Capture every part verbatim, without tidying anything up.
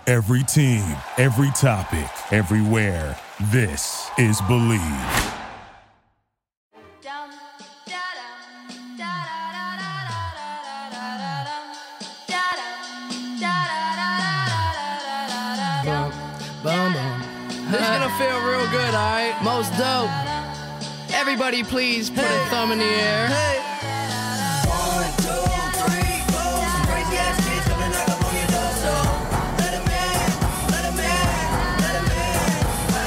Every team, every topic, everywhere. This is Believe. This is gonna feel real good, alright? Most dope. Everybody please put hey. a thumb in the air. Hey. One, two, three, four. Some crazy ass kids coming knock up on your door, so let 'em in, let 'em in, let 'em in.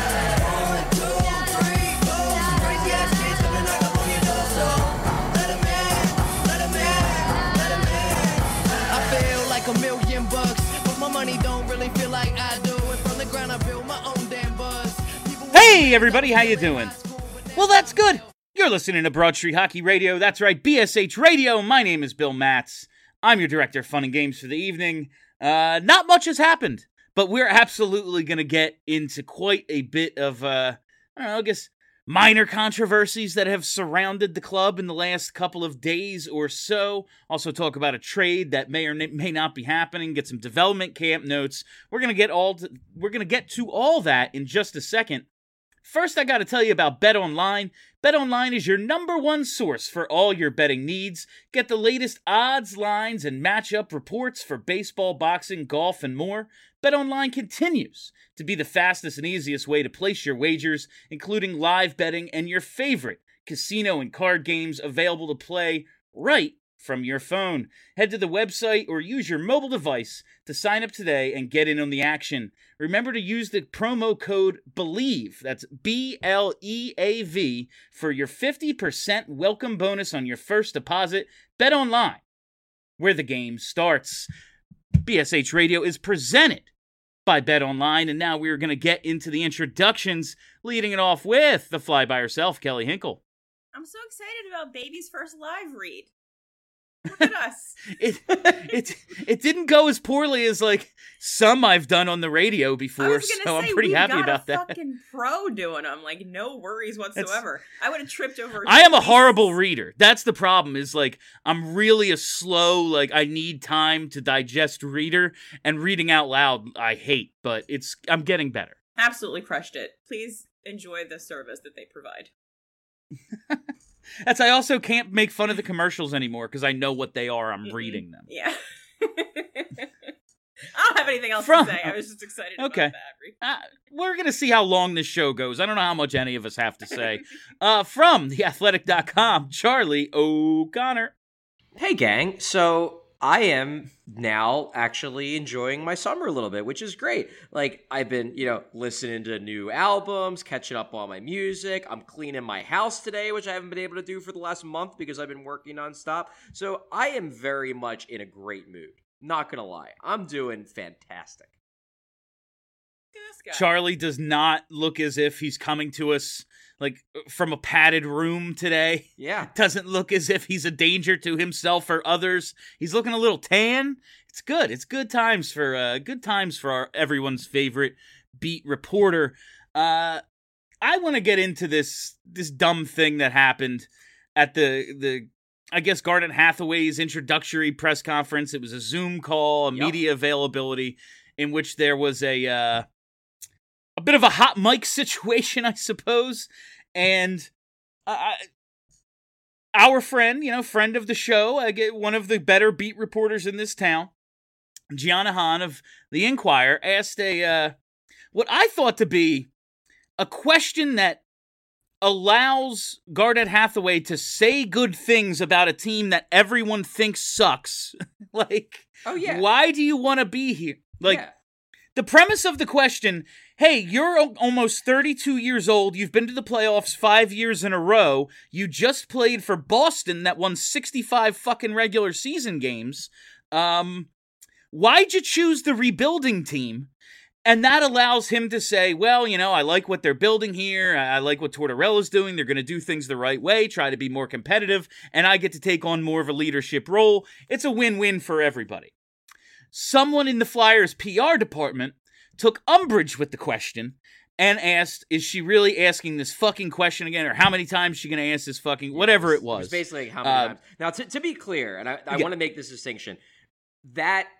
One, two, three, four. Some crazy ass kids coming knock up on your door, so let 'em in, let 'em in, let 'em in. I feel like a million bucks, but my money don't really feel like I do. And from the ground I build my own damn buzz. Hey everybody, how you doing? Well, that's good. You're listening to Broad Street Hockey Radio. That's right, B S H Radio. My name is Bill Matz. I'm your director of fun and games for the evening. Uh, not much has happened, but we're absolutely going to get into quite a bit of, uh, I don't know, I guess, minor controversies that have surrounded the club in the last couple of days or so. Also talk about a trade that may or may not be happening. Get some development camp notes. We're going to get all to, we're going to get to all that in just a second. First, I got to tell you about BetOnline. BetOnline is your number one source for all your betting needs. Get the latest odds, lines, and matchup reports for baseball, boxing, golf, and more. BetOnline continues to be the fastest and easiest way to place your wagers, including live betting and your favorite casino and card games available to play right from your phone. Head to the website or use your mobile device to sign up today and get in on the action. Remember to use the promo code BELIEVE, that's B L E A V, for your fifty percent welcome bonus on your first deposit. Bet online, where the game starts. B S H Radio is presented by BetOnline, and now we're going to get into the introductions, leading it off with the fly by herself, Kelly Hinkle. I'm so excited about Baby's first live read. Look at us. it it it didn't go as poorly as like some I've done on the radio before, so say, I'm pretty happy about that. Fucking pro doing them, like no worries whatsoever. It's, I would have tripped over. I am a horrible reader. That's the problem. Is like I'm really a slow. Like I need time to digest reader, and reading out loud I hate. But it's I'm getting better. Absolutely crushed it. Please enjoy the service that they provide. That's, I also can't make fun of the commercials anymore because I know what they are. I'm mm-hmm. reading them. Yeah. I don't have anything else From, to say. I was just excited okay. about that. Uh, we're going to see how long this show goes. I don't know how much any of us have to say. uh, from the athletic dot com, Charlie O'Connor. Hey, gang. So I am now actually enjoying my summer a little bit, which is great. Like, I've been, you know, listening to new albums, catching up on my music. I'm cleaning my house today, which I haven't been able to do for the last month because I've been working nonstop. So I am very much in a great mood. Not gonna lie. I'm doing fantastic. Charlie does not look as if he's coming to us like from a padded room today. Yeah. Doesn't look as if he's a danger to himself or others. He's looking a little tan. It's good. It's good times for uh, good times for our everyone's favorite beat reporter. Uh, I want to get into this this dumb thing that happened at the the I guess Garnet Hathaway's introductory press conference. It was a Zoom call, a yep. media availability in which there was a uh, a bit of a hot mic situation, I suppose. And uh, our friend, you know, friend of the show, I get one of the better beat reporters in this town, Gianna Hahn of The Inquirer, asked a uh, what I thought to be a question that allows Garnet Hathaway to say good things about a team that everyone thinks sucks. Like, oh yeah, why do you want to be here? Like, yeah. The premise of the question, hey, you're almost thirty-two years old, you've been to the playoffs five years in a row, you just played for Boston that won sixty-five fucking regular season games, um, why'd you choose the rebuilding team? And that allows him to say, well, you know, I like what they're building here, I like what Tortorella's doing, they're going to do things the right way, try to be more competitive, and I get to take on more of a leadership role. It's a win-win for everybody. Someone in the Flyers P R department took umbrage with the question and asked, is she really asking this fucking question again? Or how many times is she going to ask this fucking, whatever it was. It was basically how many uh, times. Now, to, to be clear, and I, I yeah. want to make this distinction, that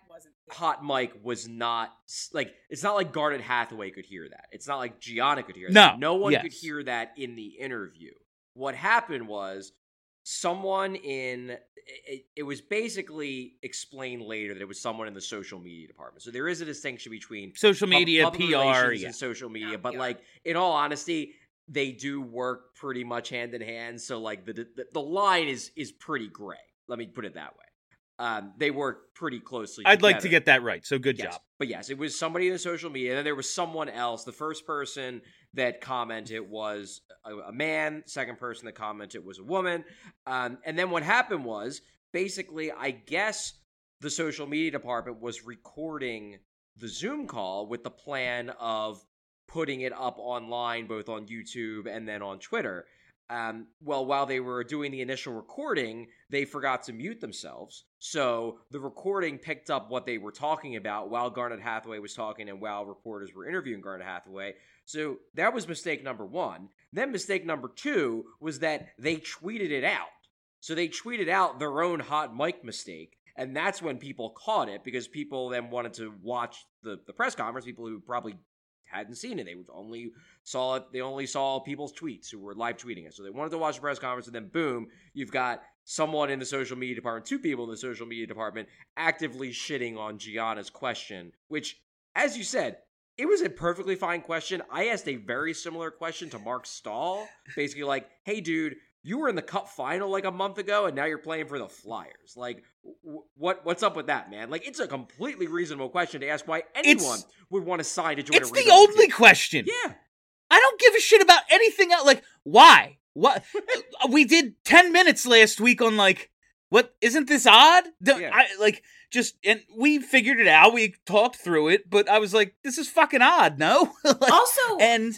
Hot Mike was not like it's not like Garnet Hathaway could hear that. It's not like Gianna could hear no, that. No one yes. could hear that in the interview. What happened was someone in it, it was basically explained later that it was someone in the social media department. So there is a distinction between social media, public P R, relations yeah. and social media. Yeah, but P R. like in all honesty, they do work pretty much hand in hand. So like the the, the line is is pretty gray. Let me put it that way. Um, they work pretty closely I'd together. like to get that right, so good Yes. job. But yes, it was somebody in the social media, and then there was someone else. The first person that commented was a, a man. Second person that commented was a woman. Um, and then what happened was, basically, I guess the social media department was recording the Zoom call with the plan of putting it up online, both on YouTube and then on Twitter. Um, well, while they were doing the initial recording, they forgot to mute themselves. So the recording picked up what they were talking about while Garnet Hathaway was talking and while reporters were interviewing Garnet Hathaway. So that was mistake number one. Then mistake number two was that they tweeted it out. So they tweeted out their own hot mic mistake. And that's when people caught it because people then wanted to watch the, the press conference, people who probably hadn't seen it. They only saw it. They only saw people's tweets who were live tweeting it. So they wanted to watch the press conference, and then boom, you've got someone in the social media department, two people in the social media department, actively shitting on Gianna's question. Which, as you said, it was a perfectly fine question. I asked a very similar question to Mark Stahl, basically like, "Hey, dude, you were in the Cup final like a month ago, and now you're playing for the Flyers. Like, w- what what's up with that, man? Like, it's a completely reasonable question to ask why anyone It's, would want to sign to join it's a the rebuilding only team. question. Yeah. I don't give a shit about anything else. Like, why? What? We did ten minutes last week on, like, what? Isn't this odd? Don't, Yeah. I, like, just, and we figured it out. We talked through it, but I was like, this is fucking odd, no? Like, Also- and,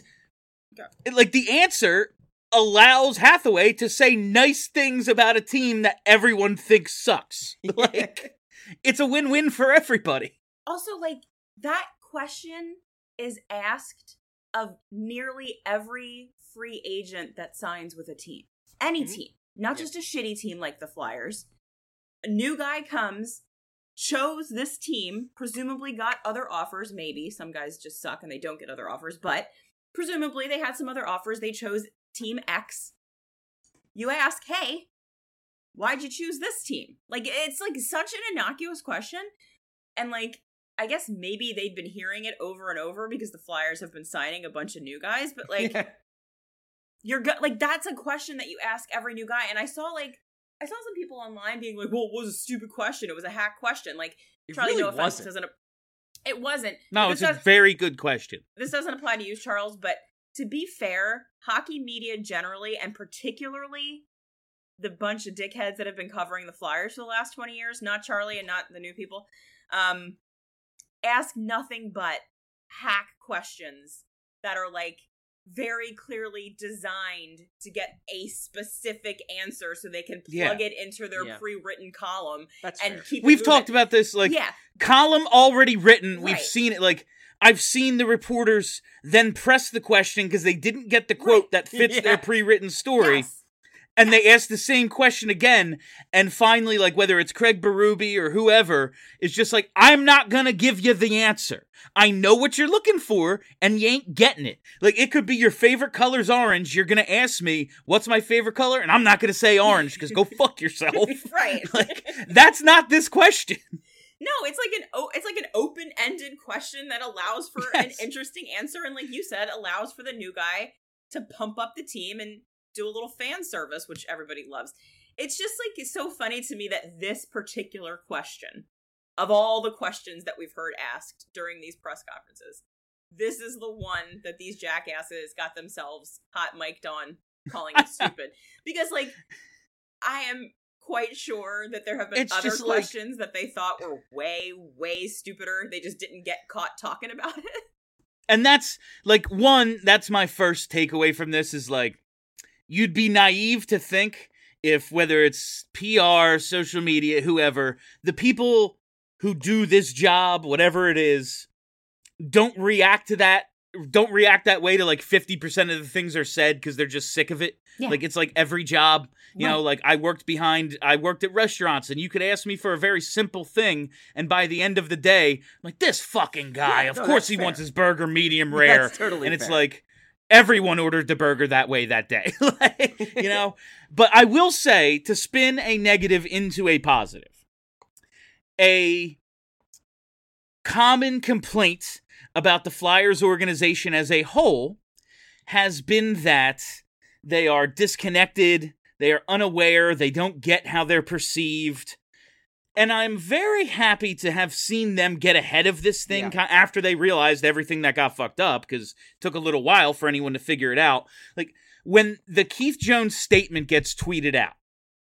like, the answer allows Hathaway to say nice things about a team that everyone thinks sucks. Like, it's a win-win for everybody. Also, like, that question is asked of nearly every free agent that signs with a team. Any Mhm. team. Not Yeah. just a shitty team like the Flyers. A new guy comes, chose this team, presumably got other offers, maybe. Some guys just suck and they don't get other offers, but presumably they had some other offers. They chose Team X. You ask, hey, why'd you choose this team? Like, it's like such an innocuous question. And like, I guess maybe they'd been hearing it over and over because the Flyers have been signing a bunch of new guys, but like, Yeah. you're go- like, that's a question that you ask every new guy. And I saw like, I saw some people online being like, well, it was a stupid question. It was a hack question. Like, It Charlie, really no offense, wasn't. doesn't, it wasn't. No, This it's a does- very good question. this doesn't apply to you, Charles, but to be fair, hockey media generally, and particularly the bunch of dickheads that have been covering the Flyers for the last twenty years, not Charlie and not the new people, um, ask nothing but hack questions that are like very clearly designed to get a specific answer so they can plug Yeah. it into their Yeah. pre-written column That's and fair. keep it We've moving. talked about this, like, yeah, column already written. We've Right. seen it. Like, I've seen the reporters then press the question because they didn't get the quote Right. that fits Yeah. their pre-written story. yes. And they ask the same question again. And finally, like, whether it's Craig Berube or whoever, is just like, I'm not going to give you the answer. I know what you're looking for, and you ain't getting it. Like, it could be your favorite color's orange. You're going to ask me, what's my favorite color? And I'm not going to say orange, because go fuck yourself. Right. Like, that's not this question. No, it's like an o- it's like an open-ended question that allows for Yes. an interesting answer, and like you said, allows for the new guy to pump up the team and do a little fan service, which everybody loves. It's just like it's so funny to me that this particular question, of all the questions that we've heard asked during these press conferences, this is the one that these jackasses got themselves hot mic'd on, calling it stupid. Because like, I am quite sure that there have been It's other just like- questions that they thought were way, way stupider. They just didn't get caught talking about it. And that's, like, one, that's my first takeaway from this is, like, you'd be naive to think if, whether it's P R, social media, whoever, the people who do this job, whatever it is, don't react to that don't react that way to like fifty percent of the things are said because they're just sick of it. Yeah. Like it's like every job, you Right. know, like I worked behind, I worked at restaurants and you could ask me for a very simple thing. And by the end of the day, I'm like this fucking guy, Yeah, of no, course that's he fair. wants his burger medium rare. That's totally and it's fair. like everyone ordered the burger that way that day, like, you know, but I will say to spin a negative into a positive, a common complaint about the Flyers organization as a whole has been that they are disconnected, they are unaware, they don't get how they're perceived. And I'm very happy to have seen them get ahead of this thing Yeah. after they realized everything that got fucked up, because it took a little while for anyone to figure it out. Like, when the Keith Jones statement gets tweeted out,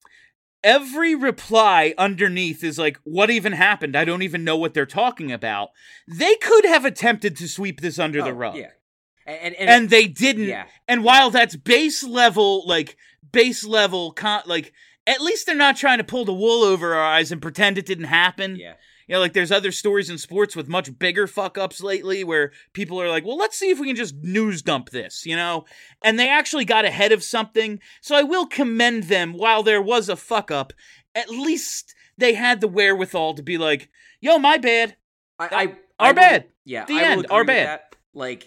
every reply underneath is like, what even happened? I don't even know what they're talking about. They could have attempted to sweep this under the Oh, rug. Yeah. And, and, And they didn't. Yeah. And while that's base level, like, base level, con- like, at least they're not trying to pull the wool over our eyes and pretend it didn't happen. yeah. You know, like, there's other stories in sports with much bigger fuck-ups lately where people are like, well, let's see if we can just news dump this, you know? And they actually got ahead of something. So I will commend them. While there was a fuck-up, at least they had the wherewithal to be like, yo, my bad. I, I, Our I will- bad. Yeah, The I will end. agree Our with bad. that. Like,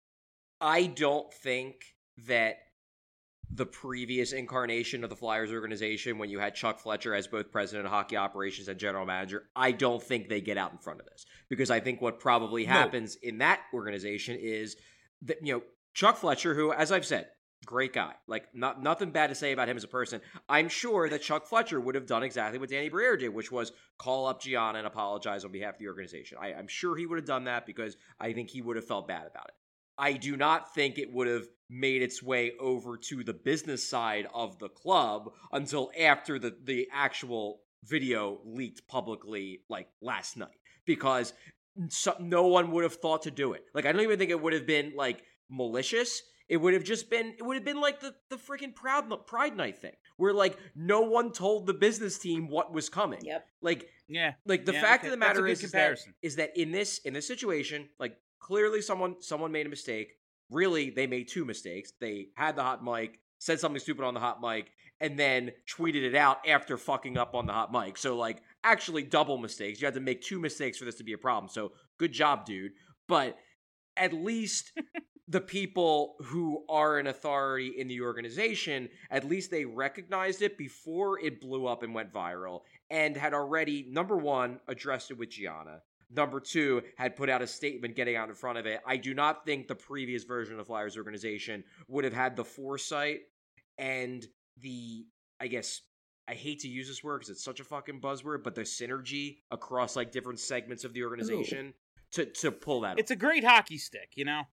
I don't think that the previous incarnation of the Flyers organization, when you had Chuck Fletcher as both president of hockey operations and general manager, I don't think they get out in front of this. Because I think what probably No. happens in that organization is that, you know, Chuck Fletcher, who, as I've said, great guy. Like, not nothing bad to say about him as a person. I'm sure that Chuck Fletcher would have done exactly what Danny Briere did, which was call up Gianna and apologize on behalf of the organization. I, I'm sure he would have done that because I think he would have felt bad about it. I do not think it would have made its way over to the business side of the club until after the, the actual video leaked publicly, like, last night. Because so, no one would have thought to do it. Like, I don't even think it would have been, like, malicious. It would have just been, it would have been like the, the freaking Proud, Pride Night thing, where, like, no one told the business team what was coming. Yep. Like, Yeah. like the Yeah, fact okay. of the That's a matter good is, is, that, comparison. is that in this in this situation, like, clearly someone someone made a mistake. Really, they made two mistakes. They had the hot mic, said something stupid on the hot mic, and then tweeted it out after fucking up on the hot mic. So, like, actually double mistakes. You had to make two mistakes for this to be a problem. So, good job, dude. But at least the people who are in authority in the organization, at least they recognized it before it blew up and went viral, and had already, number one, addressed it with Gianna. Number two, had put out a statement getting out in front of it. I do not think the previous version of the Flyers organization would have had the foresight and the, I guess, I hate to use this word because it's such a fucking buzzword, but the synergy across, like, different segments of the organization to, to pull that It's a great hockey stick, you know?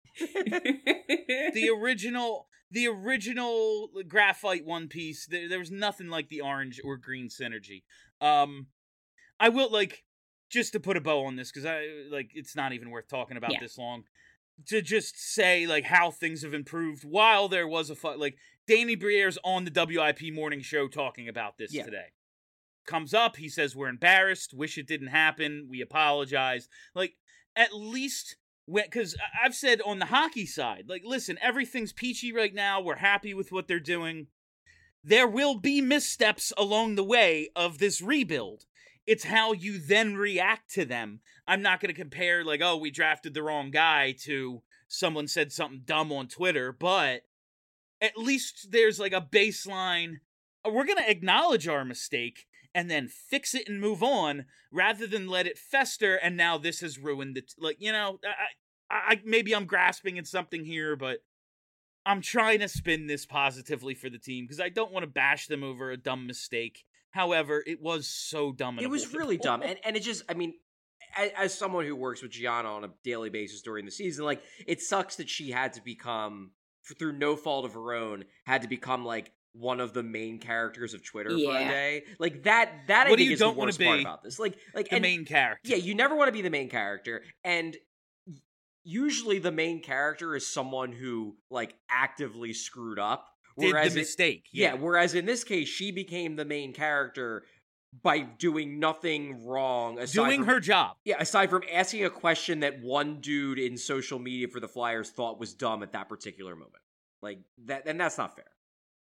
the original the original graphite one piece, there, there was nothing like the orange or green synergy. Um I will, like, just to put a bow on this, because I like it's not even worth talking about Yeah. this long, to just say, like, how things have improved while there was a fu- like Danny Briere's on the W I P morning show talking about this Yeah. today. Comes up, he says we're embarrassed, wish it didn't happen, we apologize. Like, at least when, because I've said on the hockey side, like, listen, everything's peachy right now, we're happy with what they're doing. There will be missteps along the way of this rebuild. It's how you then react to them. I'm not going to compare, like, oh, we drafted the wrong guy to someone said something dumb on Twitter, but at least there's, like, a baseline. We're going to acknowledge our mistake and then fix it and move on, rather than let it fester, and now this has ruined it. Like, you know, I, I, maybe I'm grasping at something here, but I'm trying to spin this positively for the team, because I don't want to bash them over a dumb mistake. However, it was so dumb. And It was avoidable. really dumb. And and it just, I mean, as, as someone who works with Gianna on a daily basis during the season, like, it sucks that she had to become, through no fault of her own, had to become, like, one of the main characters of Twitter for a Yeah. day. Like, that, that I What do think you is don't the wanna worst part be? about this. Like, like the and, main character. yeah, you never want to be the main character. And usually the main character is someone who, like, actively screwed up. Did Whereas the it- mistake. yeah, whereas in this case, she became the main character by doing nothing wrong. Aside Doing from, her job. Yeah, aside from asking a question that one dude in social media for the Flyers thought was dumb at that particular moment. Like, that, and that's not fair.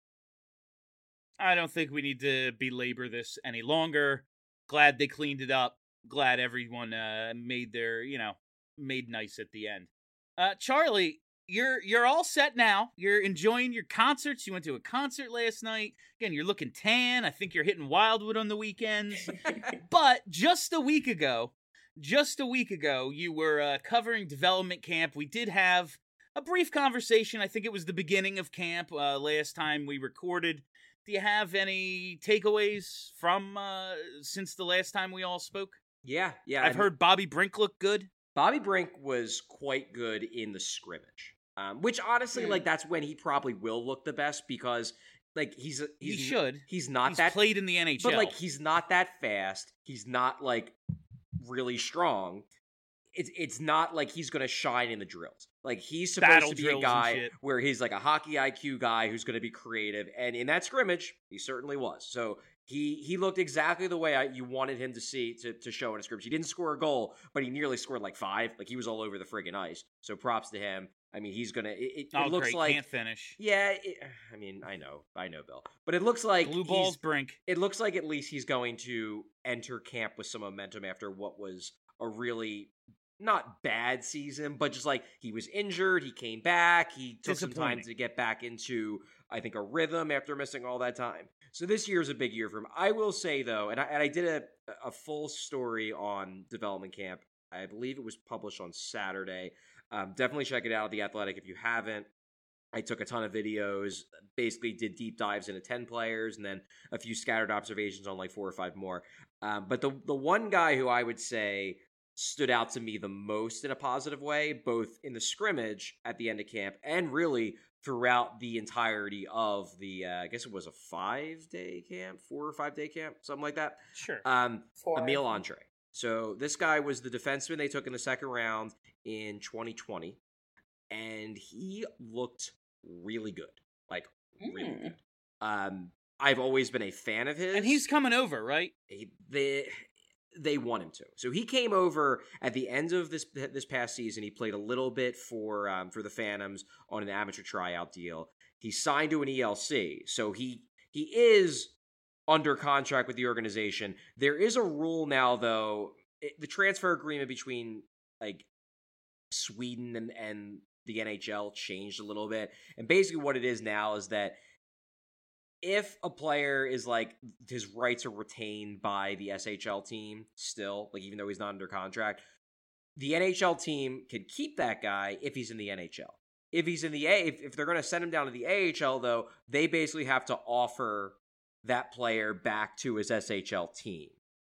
I don't think we need to belabor this any longer. Glad they cleaned it up. Glad everyone uh, made their, you know, made nice at the end. Uh, Charlie, you're you're all set now. You're enjoying your concerts. You went to a concert last night. Again, you're looking tan. I think you're hitting Wildwood on the weekends. But just a week ago, just a week ago, you were uh, covering development camp. We did have a brief conversation. I think it was the beginning of camp uh, last time we recorded. Do you have any takeaways from uh, since the last time we all spoke? Yeah, yeah. I've I mean, heard Bobby Brink look good. Bobby Brink was quite good in the scrimmage, um, which honestly, Mm. like, that's when he probably will look the best because, like, he's he's He should. he's not He's that played in the N H L. but like he's not that fast. He's not like really strong. It's it's not like he's gonna shine in the drills. Like, he's supposed Battle to be drills a and guy shit. where he's like a hockey I Q guy who's gonna be creative, and in that scrimmage, he certainly was. So he he looked exactly the way I, you wanted him to see to to show in a scrimmage. He didn't score a goal, but he nearly scored like five. Like, he was all over the friggin' ice. So props to him. I mean, he's gonna. It, it, oh, it looks great. like Can't finish. yeah. It, I mean, I know, I know, Bill, but it looks like Blue he's- balls, Brink. it looks like at least he's going to enter camp with some momentum after what was a really not bad season, but just like he was injured, he came back, he took some time Disappointing. to get back into, I think, a rhythm after missing all that time. So this year is a big year for him. I will say though, and I, and I did a a full story on development camp. I believe it was published on Saturday. Um, definitely check it out at The Athletic if you haven't. I took a ton of videos, basically did deep dives into ten players, and then a few scattered observations on like four or five more. Um, but the the one guy who I would say stood out to me the most in a positive way, both in the scrimmage at the end of camp and really throughout the entirety of the, uh, I guess it was a five-day camp, four or five-day camp, something like that. Sure. Um, Four. Emil Andre. So this guy was the defenseman they took in the second round in twenty twenty, and he looked really good, like really Mm. good. Um, I've always been a fan of his, and he's coming over, right? he, they they want him to. So he came over at the end of this this past season. He played a little bit for um, for the Phantoms on an amateur tryout deal. He signed to an E L C, so he he is under contract with the organization. There is a rule now, though. It, the transfer agreement between like Sweden and and the N H L changed a little bit, and basically what it is now is that if a player is like his rights are retained by the S H L team still, like even though he's not under contract, the N H L team can keep that guy if he's in the N H L. If he's in the A, if, if they're going to send him down to the A H L, though, they basically have to offer that player back to his S H L team,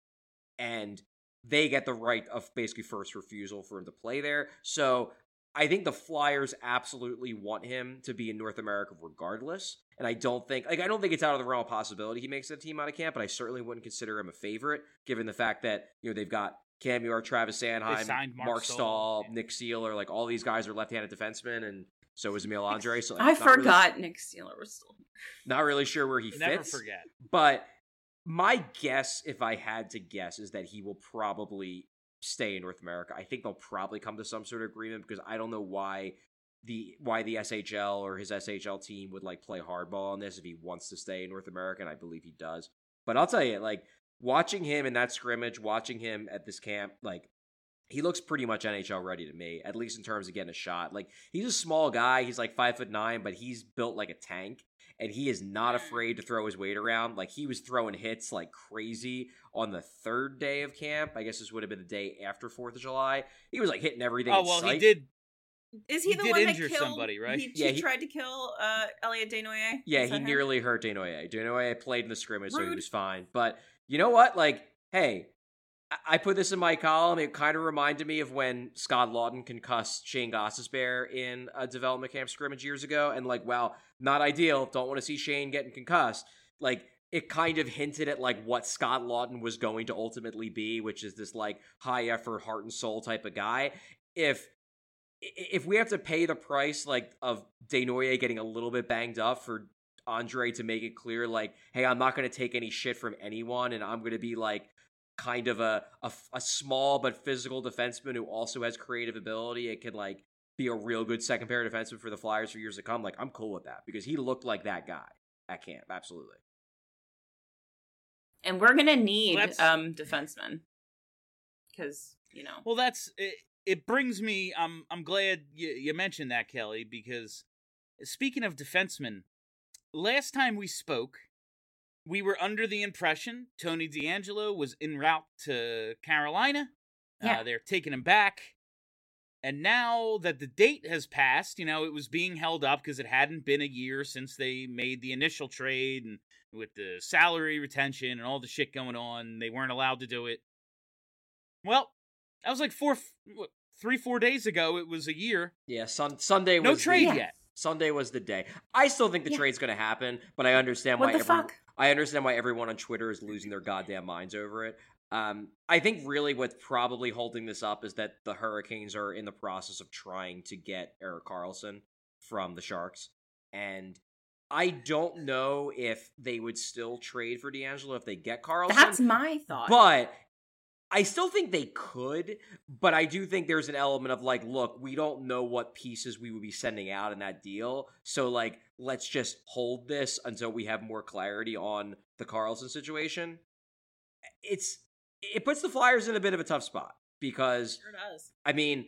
and they get the right of basically first refusal for him to play there. So I think the Flyers absolutely want him to be in North America regardless. And I don't think, like, I don't think it's out of the realm of possibility he makes the team out of camp, but I certainly wouldn't consider him a favorite, given the fact that, you know, they've got Cam York, Travis They Sanheim, signed Mark Mark Stahl. Stahl, Yeah. Nick Seeler, like, all these guys are left-handed defensemen, and so is Emil Andre. So like, I not really- forgot Nick Steeler was still here. not really sure where he Never fits. forget. But my guess, if I had to guess, is that he will probably stay in North America. I think they'll probably come to some sort of agreement because I don't know why the why the S H L or his S H L team would like play hardball on this if he wants to stay in North America, and I believe he does. But I'll tell you, like, watching him in that scrimmage, watching him at this camp, like, he looks pretty much N H L ready to me, at least in terms of getting a shot. Like, he's a small guy. He's like five foot nine, but he's built like a tank, and he is not afraid to throw his weight around. Like, he was throwing hits like crazy on the third day of camp. I guess this would have been the day after fourth of July. He was like hitting everything. Oh in well, sight. he did. Is he, He the did one that injure killed somebody, right? He, Yeah, he he- tried to kill uh, Elliot Desnoyers. Yeah, Is he that him? nearly hurt Desnoyers. Desnoyers played in the scrimmage, so he Rude. was fine. But you know what? Like, hey, I- I put this in my column. It kind of reminded me of when Scott Lawton concussed Shane Gostisbehere in a development camp scrimmage years ago. And like, wow, not ideal. Don't want to see Shane getting concussed. Like, it kind of hinted at like what Scott Lawton was going to ultimately be, which is this like high effort, heart and soul type of guy. If if we have to pay the price like of Desnoyers getting a little bit banged up for Andre to make it clear, like, hey, I'm not going to take any shit from anyone, and I'm going to be, like, kind of a, a, a small but physical defenseman who also has creative ability. It could, like, be a real good second pair defenseman for the Flyers for years to come. Like, I'm cool with that because he looked like that guy at camp. Absolutely. And we're going to need Let's- um defensemen because, you know. Well, that's it, it brings me I'm I'm glad you, you mentioned that, Kelly, because speaking of defensemen, last time we spoke, we were under the impression Tony DeAngelo was en route to Carolina. Yeah. Uh, they're taking him back. And now that the date has passed, you know, it was being held up because it hadn't been a year since they made the initial trade, and with the salary retention and all the shit going on, they weren't allowed to do it. Well, that was like four, what, three, four days ago. It was a year. Yeah, sun- Sunday was No trade the, yet. Sunday was the day. I still think the Yeah. trade's going to happen, but I understand What why the everyone, fuck? I understand why everyone on Twitter is losing their goddamn minds over it. Um, I think really what's probably holding this up is that the Hurricanes are in the process of trying to get Erik Karlsson from the Sharks, and I don't know if they would still trade for DeAngelo if they get Karlsson. That's my thought. But I still think they could, but I do think there's an element of like, look, we don't know what pieces we would be sending out in that deal. So like, let's just hold this until we have more clarity on the Karlsson situation. It's, it puts the Flyers in a bit of a tough spot because, Sure does. I mean,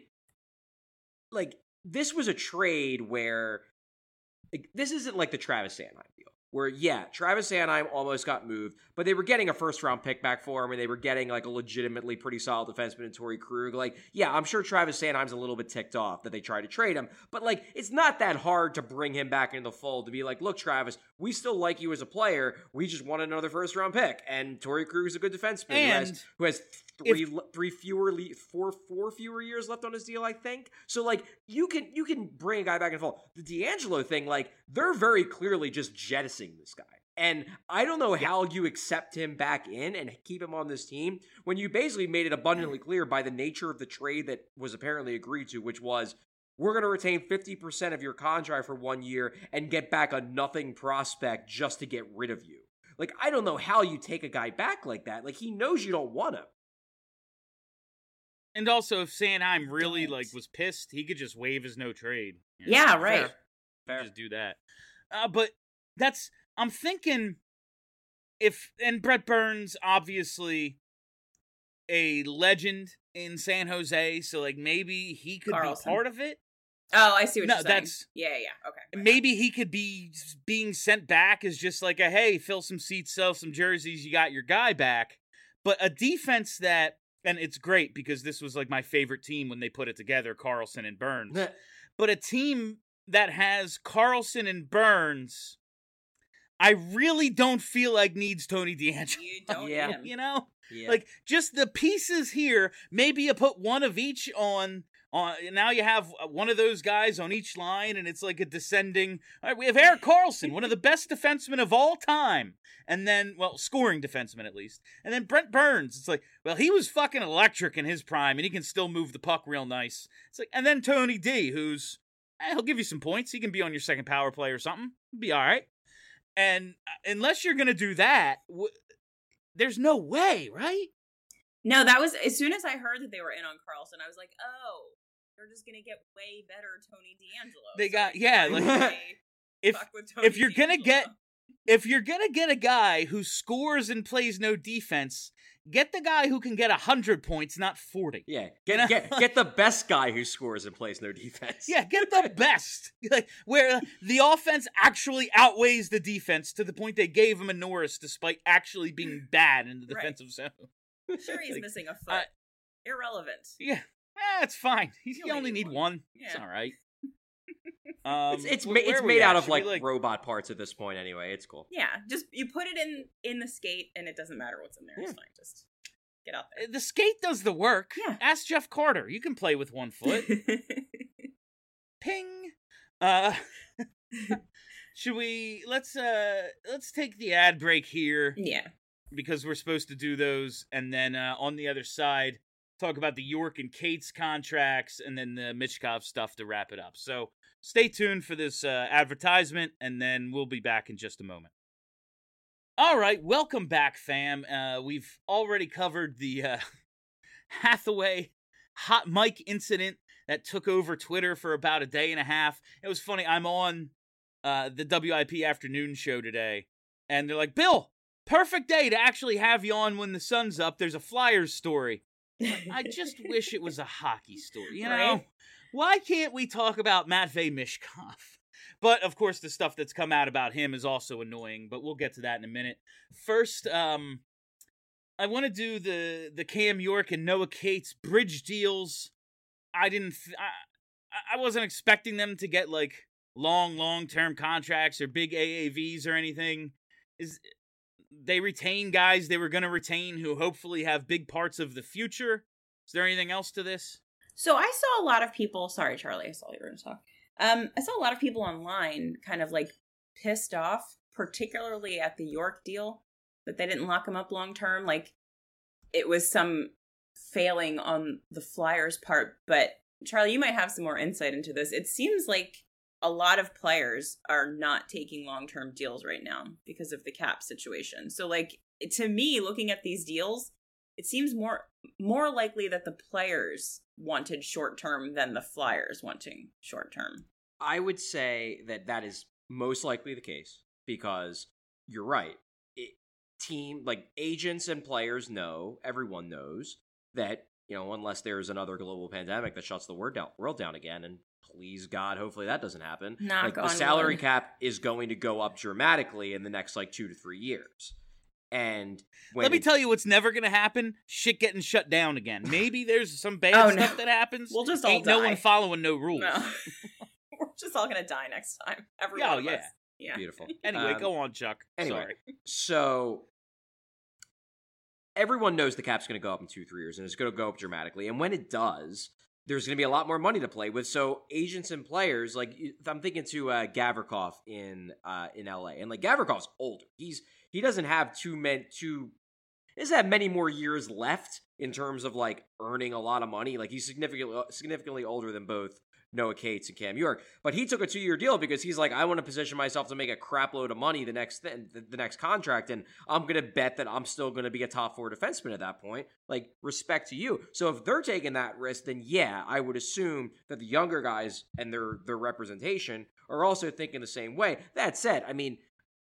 like, this was a trade where, like, this isn't like the Travis Sanheim deal. Where, yeah, Travis Sanheim almost got moved, but they were getting a first-round pick back for him, and they were getting, like, a legitimately pretty solid defenseman in Torrey Krug. Like, yeah, I'm sure Travis Sanheim's a little bit ticked off that they tried to trade him, but, like, it's not that hard to bring him back into the fold to be like, look, Travis, we still like you as a player. We just want another first-round pick, and Torrey Krug is a good defenseman who And has, who has three, if- le- three fewer, le- four, four fewer years left on his deal, I think. So, like, you can you can bring a guy back in the fold. The DeAngelo thing, like, they're very clearly just jettisoning this guy. And I don't know how you accept him back in and keep him on this team when you basically made it abundantly clear by the nature of the trade that was apparently agreed to, which was, we're going to retain fifty percent of your contract for one year and get back a nothing prospect just to get rid of you. Like, I don't know how you take a guy back like that. Like, he knows you don't want him. And also, if Sanheim really, Don't. like, was pissed, he could just waive his no trade. You know? Yeah, right. Fair. Just do that. Uh, but that's, I'm thinking if, and Brett Burns, obviously a legend in San Jose, so, like, maybe he could Karlsson. be part of it. Oh, I see what No, you're saying. that's- Yeah, yeah, yeah. Okay. Maybe he could be being sent back as just like a, hey, fill some seats, sell some jerseys, you got your guy back. But a defense that, and it's great because this was like my favorite team when they put it together, Karlsson and Burns. But a team that has Karlsson and Burns, I really don't feel like needs Tony DeAngelo. You don't Yeah. need him. You know? Yeah. Like, just the pieces here, maybe you put one of each on, on. Now you have one of those guys on each line, and it's like a descending. All right, we have Erik Karlsson, one of the best defensemen of all time. And then, well, scoring defenseman at least. And then Brent Burns, it's like, well, he was fucking electric in his prime, and he can still move the puck real nice. It's like, and then Tony D, who's, eh, he'll give you some points. He can be on your second power play or something. He'll be all right. And unless you're going to do that, w- there's no way, right? No, that was as soon as I heard that they were in on Karlsson, I was like, oh, they're just gonna get way better Tony DeAngelo. They So got- they yeah, can like, really If fuck with Tony if you're gonna DeAngelo. get if you're gonna get a guy who scores and plays no defense, get the guy who can get a hundred points, not forty. Yeah, You get know? get get the best guy who scores and plays no defense. Yeah, get the best, like where the offense actually outweighs the defense to the point they gave him a Norris despite actually being bad in the Right. defensive zone. Sure, he's Like, missing a foot. uh, Irrelevant. Yeah, eh, it's fine. You, You only need one. It's Yeah. all right. Um, It's it's, wh- ma- where it's are we made at? out of Should we, like, robot parts at this point anyway. It's cool. Yeah, just you put it in in the skate, and it doesn't matter what's in there. It's Yeah. fine. Just get out there. the skate does the work. Yeah. Ask Jeff Carter. You can play with one foot. Ping. Uh should we let's uh let's take the ad break here yeah. because we're supposed to do those, and then uh on the other side talk about the York and Cates contracts, and then the Michkov stuff to wrap it up. So stay tuned for this uh, advertisement, and then we'll be back in just a moment. All right, welcome back, fam. Uh, we've already covered the uh, Hathaway hot mic incident that took over Twitter for about a day and a half. It was funny. I'm on uh, the W I P afternoon show today, and they're like, Bill, perfect day to actually have you on when the sun's up. There's a Flyers story. I just wish it was a hockey story, you know? Right. Why can't we talk about Matvei Michkov? But, of course, the stuff that's come out about him is also annoying, but we'll get to that in a minute. First, um, I want to do the, the Cam York and Noah Cates bridge deals. I didn't... Th- I, I wasn't expecting them to get, like, long, long-term contracts or big A A Vs or anything. Is They retain guys they were going to retain who hopefully have big parts of the future. Is there anything else to this? So I saw a lot of people, sorry, Charlie, I saw you were going to talk. Um, I saw a lot of people online kind of like pissed off, particularly at the York deal, that they didn't lock him up long term. Like it was some failing on the Flyers' part. But Charlie, you might have some more insight into this. It seems like a lot of players are not taking long term deals right now because of the cap situation. So like to me, looking at these deals, it seems more more likely that the players wanted short term than the Flyers wanting short term. I would say that that is most likely the case because you're right. It, team like agents and players know, everyone knows that, you know, unless there's another global pandemic that shuts the world down, world down again, and please God, hopefully that doesn't happen. Knock like the on salary wood. cap is going to go up dramatically in the next like two to three years. And when Let me it, tell you what's never going to happen. Shit getting shut down again. Maybe there's some bad Oh, stuff no. that happens. We'll just all Ain't no die. one following no rules. No. We're just all gonna die next time. Every Oh, one of yeah. us. Yeah. beautiful. Anyway, Um, go on, Chuck. Anyway, Sorry. so everyone knows the cap's going to go up in two, three years, and it's going to go up dramatically. And when it does, there's going to be a lot more money to play with. So agents and players, like if I'm thinking to uh, Gavrikov in uh, in L A, and like Gavrikov's older. He's he doesn't have too many too. He doesn't have many more years left in terms of like earning a lot of money. Like he's significantly significantly older than both Noah Cates and Cam York, but he took a two-year deal because he's like, I want to position myself to make a crap load of money the next th- the, the next contract, and I'm going to bet that I'm still going to be a top four defenseman at that point. Like, respect to you. So if they're taking that risk, then yeah, I would assume that the younger guys and their their representation are also thinking the same way. That said, I mean,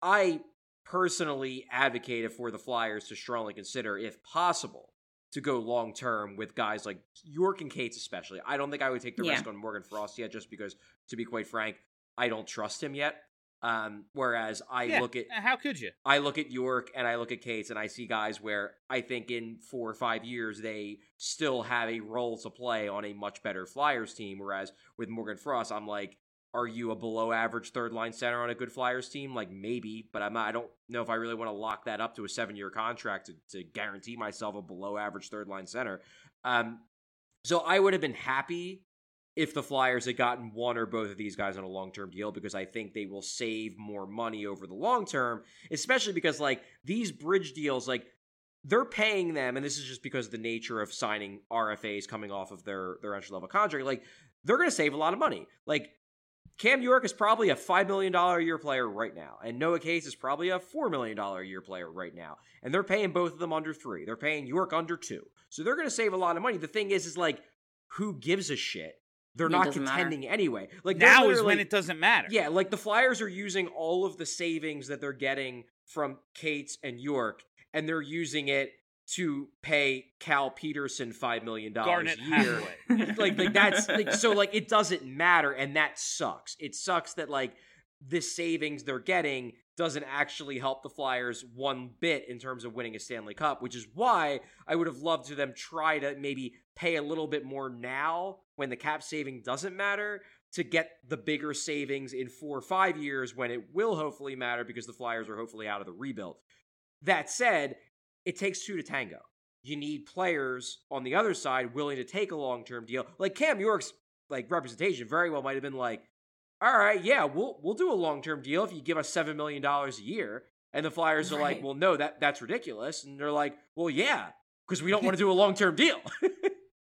I personally advocated for the Flyers to strongly consider, if possible, to go long term with guys like York and Cates, especially. I don't think I would take the Yeah. risk on Morgan Frost yet, just because, to be quite frank, I don't trust him yet. Um, whereas I Yeah, look at how could you? I look at York and I look at Cates and I see guys where I think in four or five years they still have a role to play on a much better Flyers team. Whereas with Morgan Frost, I'm like, are you a below average third line center on a good Flyers team? Like maybe, but I'm not, I don't know if I really want to lock that up to a seven year contract to, to guarantee myself a below average third line center. Um, so I would have been happy if the Flyers had gotten one or both of these guys on a long-term deal, because I think they will save more money over the long term, especially because like these bridge deals, like they're paying them, and this is just because of the nature of signing R F As coming off of their, their entry level contract, like they're going to save a lot of money. Like Cam York is probably a five million dollars a year player right now, and Noah Cates is probably a four million dollars a year player right now, and they're paying both of them under three. They're paying York under two. So they're going to save a lot of money. The thing is, is like, who gives a shit? They're It not doesn't contending matter. anyway. Like they're Now is literally- when it doesn't matter. Yeah, like the Flyers are using all of the savings that they're getting from Cates and York, and they're using it to pay Cal Peterson five million dollars Garnet a year. Hathaway. like, like that's like, so like it doesn't matter, and that sucks. It sucks that like this savings they're getting doesn't actually help the Flyers one bit in terms of winning a Stanley Cup, which is why I would have loved to them try to maybe pay a little bit more now when the cap saving doesn't matter, to get the bigger savings in four or five years when it will hopefully matter, because the Flyers are hopefully out of the rebuild. That said, it takes two to tango. You need players on the other side willing to take a long-term deal. Like Cam York's like representation very well might have been like, all right, yeah, we'll we'll do a long-term deal if you give us seven million dollars a year. And the Flyers are like, Right. well, no, that that's ridiculous. And they're like, well, yeah, because we don't want to do a long-term deal.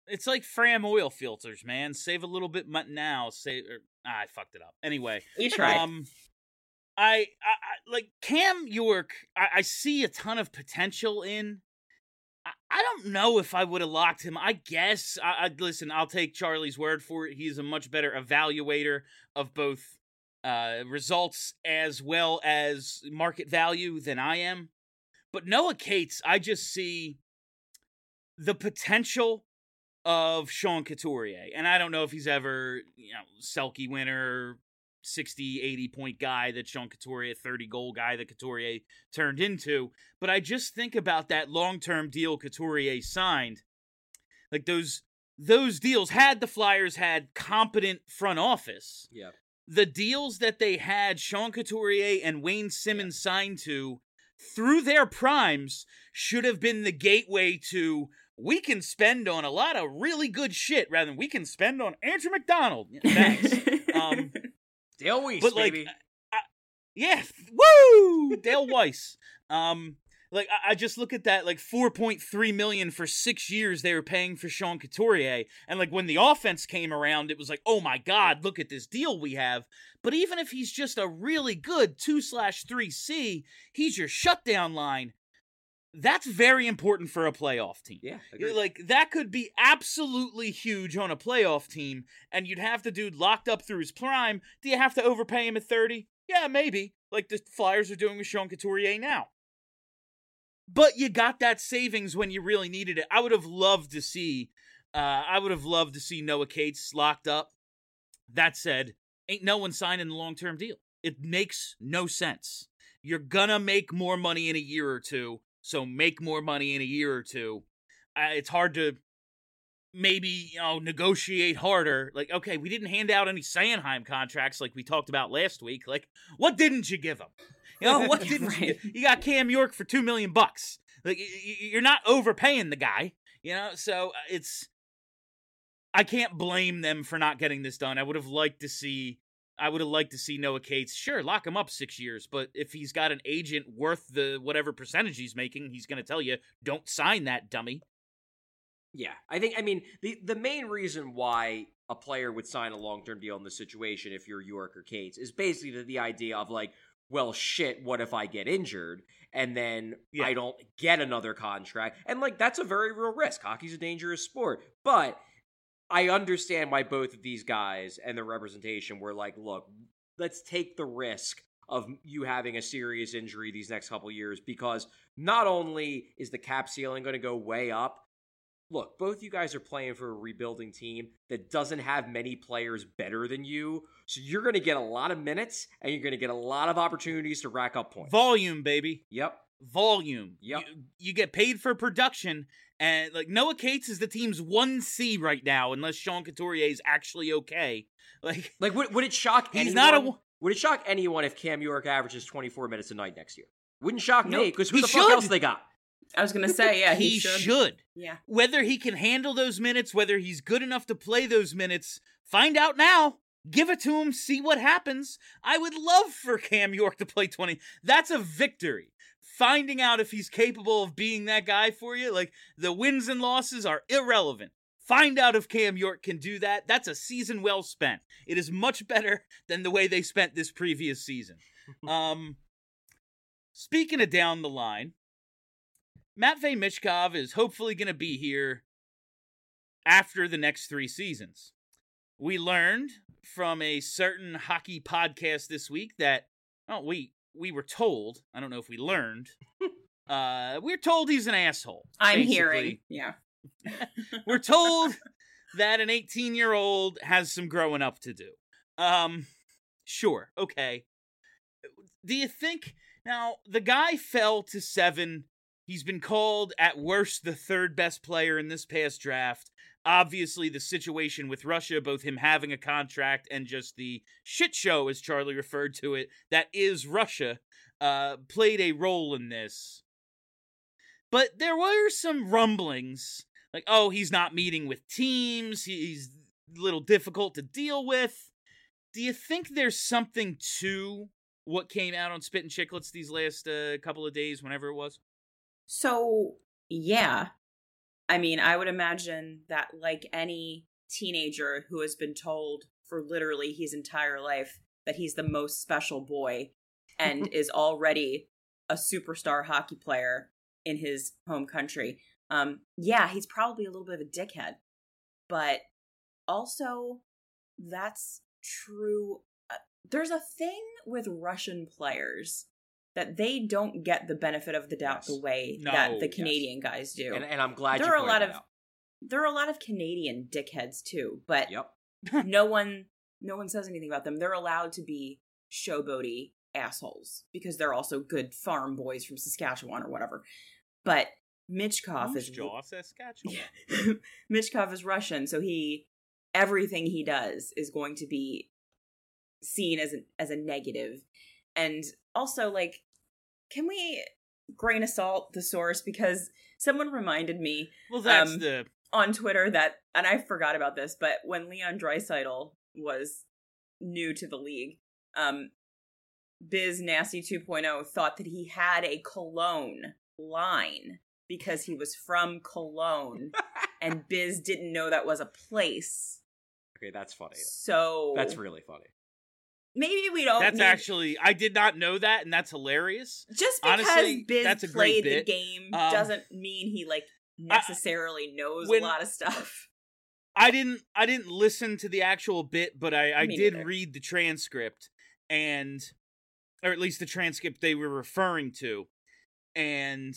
It's like Fram oil filters, man. Save a little bit now. Save. Or, ah, I fucked it up. Anyway, You tried. Um, I, I, I like Cam York. I, I see a ton of potential in. I, I don't know if I would have locked him. I guess. I, I listen. I'll take Charlie's word for it. He's a much better evaluator of both uh, results as well as market value than I am. But Noah Cates, I just see the potential of Sean Couturier. And I don't know if he's ever, you know, Selke winner, sixty, eighty point guy that Sean Couturier, thirty goal guy that Couturier turned into. But I just think about that long-term deal Couturier signed. Like those those deals, had the Flyers had competent front office. Yeah. The deals that they had Sean Couturier and Wayne Simmons yeah. signed to through their primes should have been the gateway to, we can spend on a lot of really good shit rather than we can spend on Andrew McDonald. Thanks. um, Dale Weiss, but like, baby. I, I, yeah, woo! Dale Weiss. Um, like, I, I just look at that, like, four point three million dollars for six years they were paying for Sean Couturier. And, like, when the offense came around, it was like, oh, my God, look at this deal we have. But even if he's just a really good two slash three C, he's your shutdown line. That's very important for a playoff team. Yeah, agreed. Like, that could be absolutely huge on a playoff team, and you'd have the dude locked up through his prime. Do you have to overpay him at thirty? Yeah, maybe. Like the Flyers are doing with Sean Couturier now. But you got that savings when you really needed it. I would have loved to see, uh, I would have loved to see Noah Cates locked up. That said, ain't no one signing a long-term deal. It makes no sense. You're gonna make more money in a year or two, so make more money in a year or two. Uh, it's hard to maybe, you know, negotiate harder. Like, okay, we didn't hand out any Sanheim contracts like we talked about last week. Like, what didn't you give them? You know, what didn't right. you give? You got Cam York for two million bucks. Like, you're not overpaying the guy, you know? So it's, I can't blame them for not getting this done. I would have liked to see, I would have liked to see Noah Cates. Sure, lock him up six years, but if he's got an agent worth the whatever percentage he's making, he's going to tell you, don't sign that, dummy. Yeah, I think, I mean, the, the main reason why a player would sign a long-term deal in this situation, if you're York or Cates, is basically the, the idea of like, well, shit, what if I get injured and then yeah. I don't get another contract? And like, that's a very real risk. Hockey's a dangerous sport, but I understand why both of these guys and the representation were like, look, let's take the risk of you having a serious injury these next couple years, because not only is the cap ceiling going to go way up, look, both you guys are playing for a rebuilding team that doesn't have many players better than you, so you're going to get a lot of minutes, and you're going to get a lot of opportunities to rack up points. Volume, baby. Yep. Volume. Yep. You, you get paid for production, and like Noah Cates is the team's one C right now, unless Sean Couturier is actually okay. Like, like would, would it shock he's anyone? Not a, would it shock anyone if Cam York averages twenty-four minutes a night next year? Wouldn't shock nope. me, because who he the should. fuck else they got? I was going to say, yeah, he, he should. should. Yeah. Whether he can handle those minutes, whether he's good enough to play those minutes, find out now. Give it to him, see what happens. I would love for Cam York to play twenty. That's a victory. Finding out if he's capable of being that guy for you, like the wins and losses are irrelevant. Find out if Cam York can do that. That's a season well spent. It is much better than the way they spent this previous season. um, speaking of down the line, Matvei Michkov is hopefully going to be here after the next three seasons. We learned from a certain hockey podcast this week that, oh, we we were told, I don't know if we learned, uh, we're told he's an asshole. I'm basically. hearing, yeah. We're told that an eighteen-year-old has some growing up to do. Um, sure, okay. Do you think, now, the guy fell to seven. He's been called, at worst, the third best player in this past draft. Obviously, the situation with Russia, both him having a contract and just the shit show, as Charlie referred to it, that is Russia, uh, played a role in this. But there were some rumblings, like, oh, he's not meeting with teams, he's a little difficult to deal with. Do you think there's something to what came out on Spit and Chicklets these last uh, couple of days, whenever it was? So, yeah. I mean, I would imagine that like any teenager who has been told for literally his entire life that he's the most special boy and is already a superstar hockey player in his home country. Um, yeah, he's probably a little bit of a dickhead, but also that's true. Uh, there's a thing with Russian players that they don't get the benefit of the doubt Yes. the way No, that the yes. Canadian guys do. And, and I'm glad there you are a pointed lot that of out. there are a lot of Canadian dickheads too, but Yep. no one no one says anything about them. They're allowed to be showboaty assholes because they're also good farm boys from Saskatchewan or whatever. But Michkov Moose is Jaw, Saskatchewan. Michkov is Russian, so he everything he does is going to be seen as a, as a negative. And also, like, can we grain of salt the source? Because someone reminded me Well, that's Um, the on Twitter that, and I forgot about this, but when Leon Draisaitl was new to the league, um, Biz Nasty two point oh thought that he had a Cologne line because he was from Cologne, and Biz didn't know that was a place. Okay, that's funny. So That's really funny. maybe we don't. that's need, actually I did not know that, and that's hilarious. just because honestly, Biz that's a great played the bit. game Um, doesn't mean he like necessarily knows when- a lot of stuff. I didn't I didn't listen to the actual bit, but I, I Me did neither. read the transcript, and or at least the transcript they were referring to, and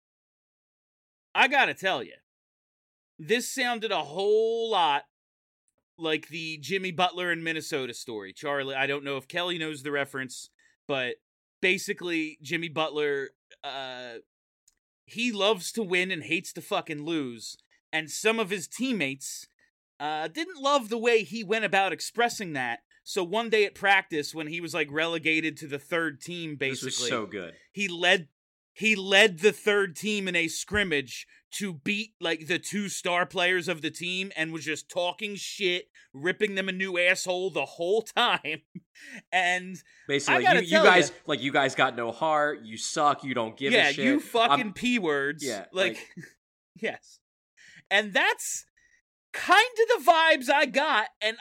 I gotta tell you, this sounded a whole lot like the Jimmy Butler in Minnesota story. Charlie, I don't know if Kelly knows the reference, but basically Jimmy Butler, uh, he loves to win and hates to fucking lose, and some of his teammates uh, didn't love the way he went about expressing that. So one day at practice, when he was like relegated to the third team, basically, This was so good. he led he led the third team in a scrimmage to beat like the two star players of the team and was just talking shit, ripping them a new asshole the whole time. And Basically, gotta you, you tell guys ya- like you guys got no heart. You suck. You don't give yeah, a shit. you fucking I'm- p words. yeah, like, like- yes, and that's kind of the vibes I got, and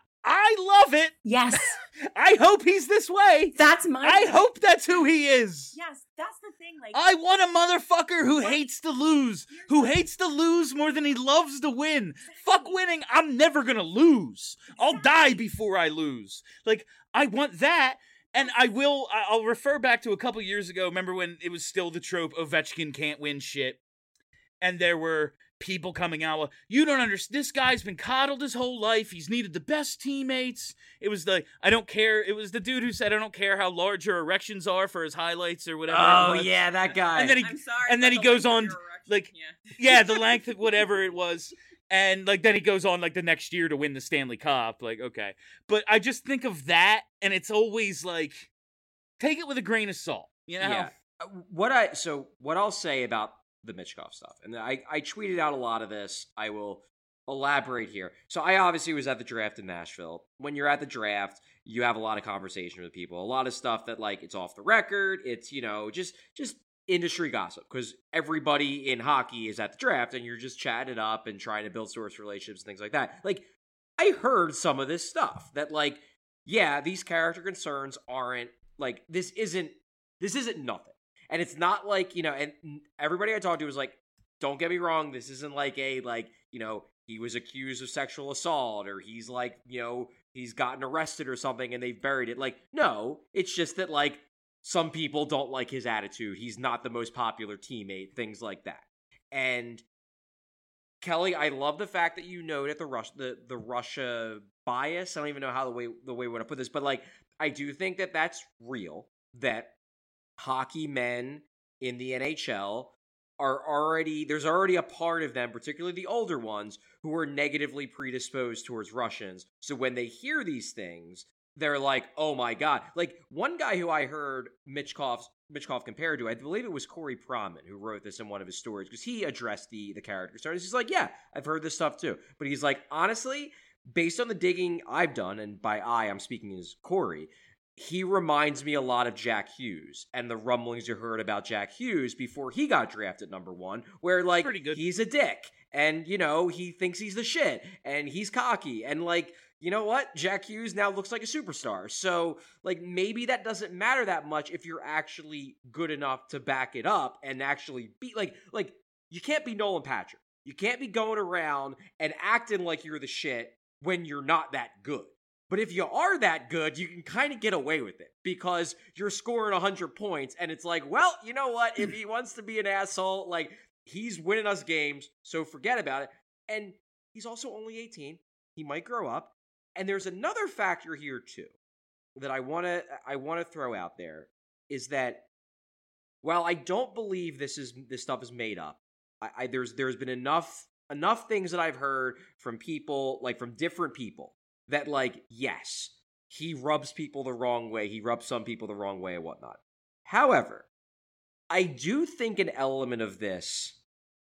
I love it. Yes, I hope he's this way. that's my. I hope that's who he is. Yes, that's the thing. Like, I want a motherfucker who What? hates to lose, who hates to lose more than he loves to win. Fuck winning, I'm never gonna lose. I'll die before I lose. Like, I want that, and I will, I- I'll refer back to a couple years ago, remember when it was still the trope Ovechkin can't win shit, and there were people coming out, well, you don't understand, this guy's been coddled his whole life, he's needed the best teammates. It was the, I don't care, it was the dude who said, I don't care how large your erections are for his highlights or whatever. Oh it was. yeah, that guy. And then he, I'm sorry, and then but he the goes length of on, your erection- like, yeah. yeah, the length of whatever it was. And, like, then he goes on, like, the next year to win the Stanley Cup. Like, okay. But I just think of that, and it's always, like, take it with a grain of salt, you know? Yeah. Uh, What I so what I'll say about the Michkov stuff, and I I tweeted out a lot of this. I will elaborate here. So I obviously was at the draft in Nashville. When you're at the draft, you have a lot of conversation with people, a lot of stuff that like it's off the record. It's you know just just industry gossip because everybody in hockey is at the draft, and you're just chatting it up and trying to build source relationships and things like that. Like I heard some of this stuff that like yeah, these character concerns aren't like this isn't this isn't nothing. And it's not like, you know, and everybody I talked to was like, don't get me wrong, this isn't like a, like, you know, he was accused of sexual assault or he's like, you know, he's gotten arrested or something and they've buried it. Like, no, it's just that, like, some people don't like his attitude. He's not the most popular teammate, things like that. And Kelly, I love the fact that you noted the Russia, the, the Russia bias. I don't even know how the way, the way we want to put this, but, like, I do think that that's real, that hockey men in the N H L are already, there's already a part of them, particularly the older ones, who are negatively predisposed towards Russians. So when they hear these things, they're like, oh my God. Like one guy who I heard Michkov, Michkov compared to, I believe it was Corey Proman who wrote this in one of his stories because he addressed the, the character stories. He's like, yeah, I've heard this stuff too. But he's like, honestly, based on the digging I've done, and by I, I'm speaking as Corey, he reminds me a lot of Jack Hughes and the rumblings you heard about Jack Hughes before he got drafted number one, where, like, Pretty good. he's a dick and, you know, he thinks he's the shit and he's cocky and, like, you know what? Jack Hughes now looks like a superstar. So, like, maybe that doesn't matter that much if you're actually good enough to back it up and actually be, like, like, you can't be Nolan Patrick. You can't be going around and acting like you're the shit when you're not that good. But if you are that good, you can kind of get away with it because you're scoring one hundred points and it's like, well, you know what? If he wants to be an asshole, like, he's winning us games, so forget about it. And he's also only eighteen. He might grow up. And there's another factor here too that I want to I want to throw out there is that while I don't believe this is this stuff is made up, I, I there's there's been enough enough things that I've heard from people, like from different people, that, like, yes, he rubs people the wrong way. He rubs some people the wrong way and whatnot. However, I do think an element of this,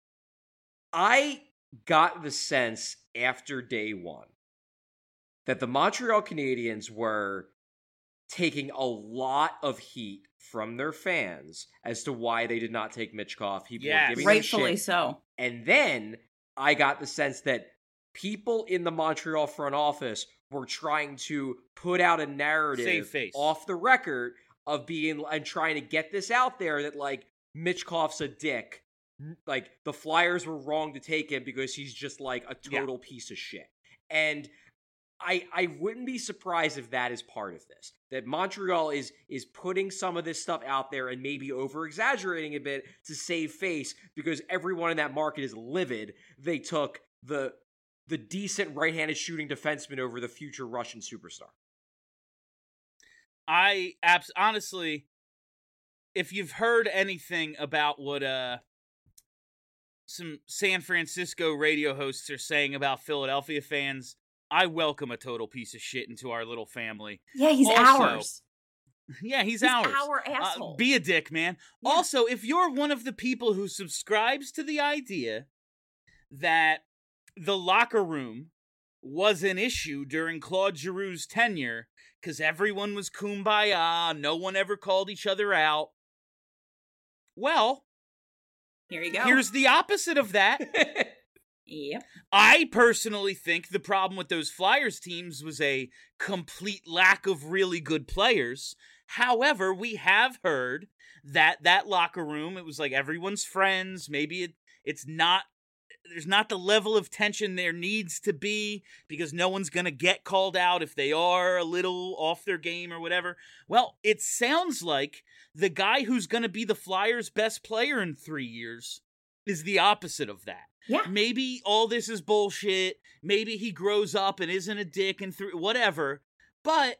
I got the sense after day one that the Montreal Canadiens were taking a lot of heat from their fans as to why they did not take Michkov. People Yes. were giving them Rightfully shit. so. And then I got the sense that people in the Montreal front office were trying to put out a Save narrative face. off the record of being and trying to get this out there that, like, Michkov's a dick. Like, the Flyers were wrong to take him because he's just, like, a total piece of shit. And I I wouldn't be surprised if that is part of this. That Montreal is is putting some of this stuff out there and maybe over-exaggerating a bit to save face because everyone in that market is livid. They took the the decent right-handed shooting defenseman over the future Russian superstar. I abs- honestly, if you've heard anything about what uh some San Francisco radio hosts are saying about Philadelphia fans, I welcome a total piece of shit into our little family. Yeah, he's Also, ours. Yeah, he's, He's ours. our Uh, asshole. be a dick, man. Yeah. Also, if you're one of the people who subscribes to the idea that the locker room was an issue during Claude Giroux's tenure because everyone was kumbaya, no one ever called each other out. Well, Here you go. here's the opposite of that. Yep. I personally think the problem with those Flyers teams was a complete lack of really good players. However, we have heard that that locker room, it was like everyone's friends. Maybe it, it's not, there's not the level of tension there needs to be because no one's going to get called out if they are a little off their game or whatever. Well, it sounds like the guy who's going to be the Flyers' best player in three years is the opposite of that. Yeah. Maybe all this is bullshit. Maybe he grows up and isn't a dick and th- whatever. But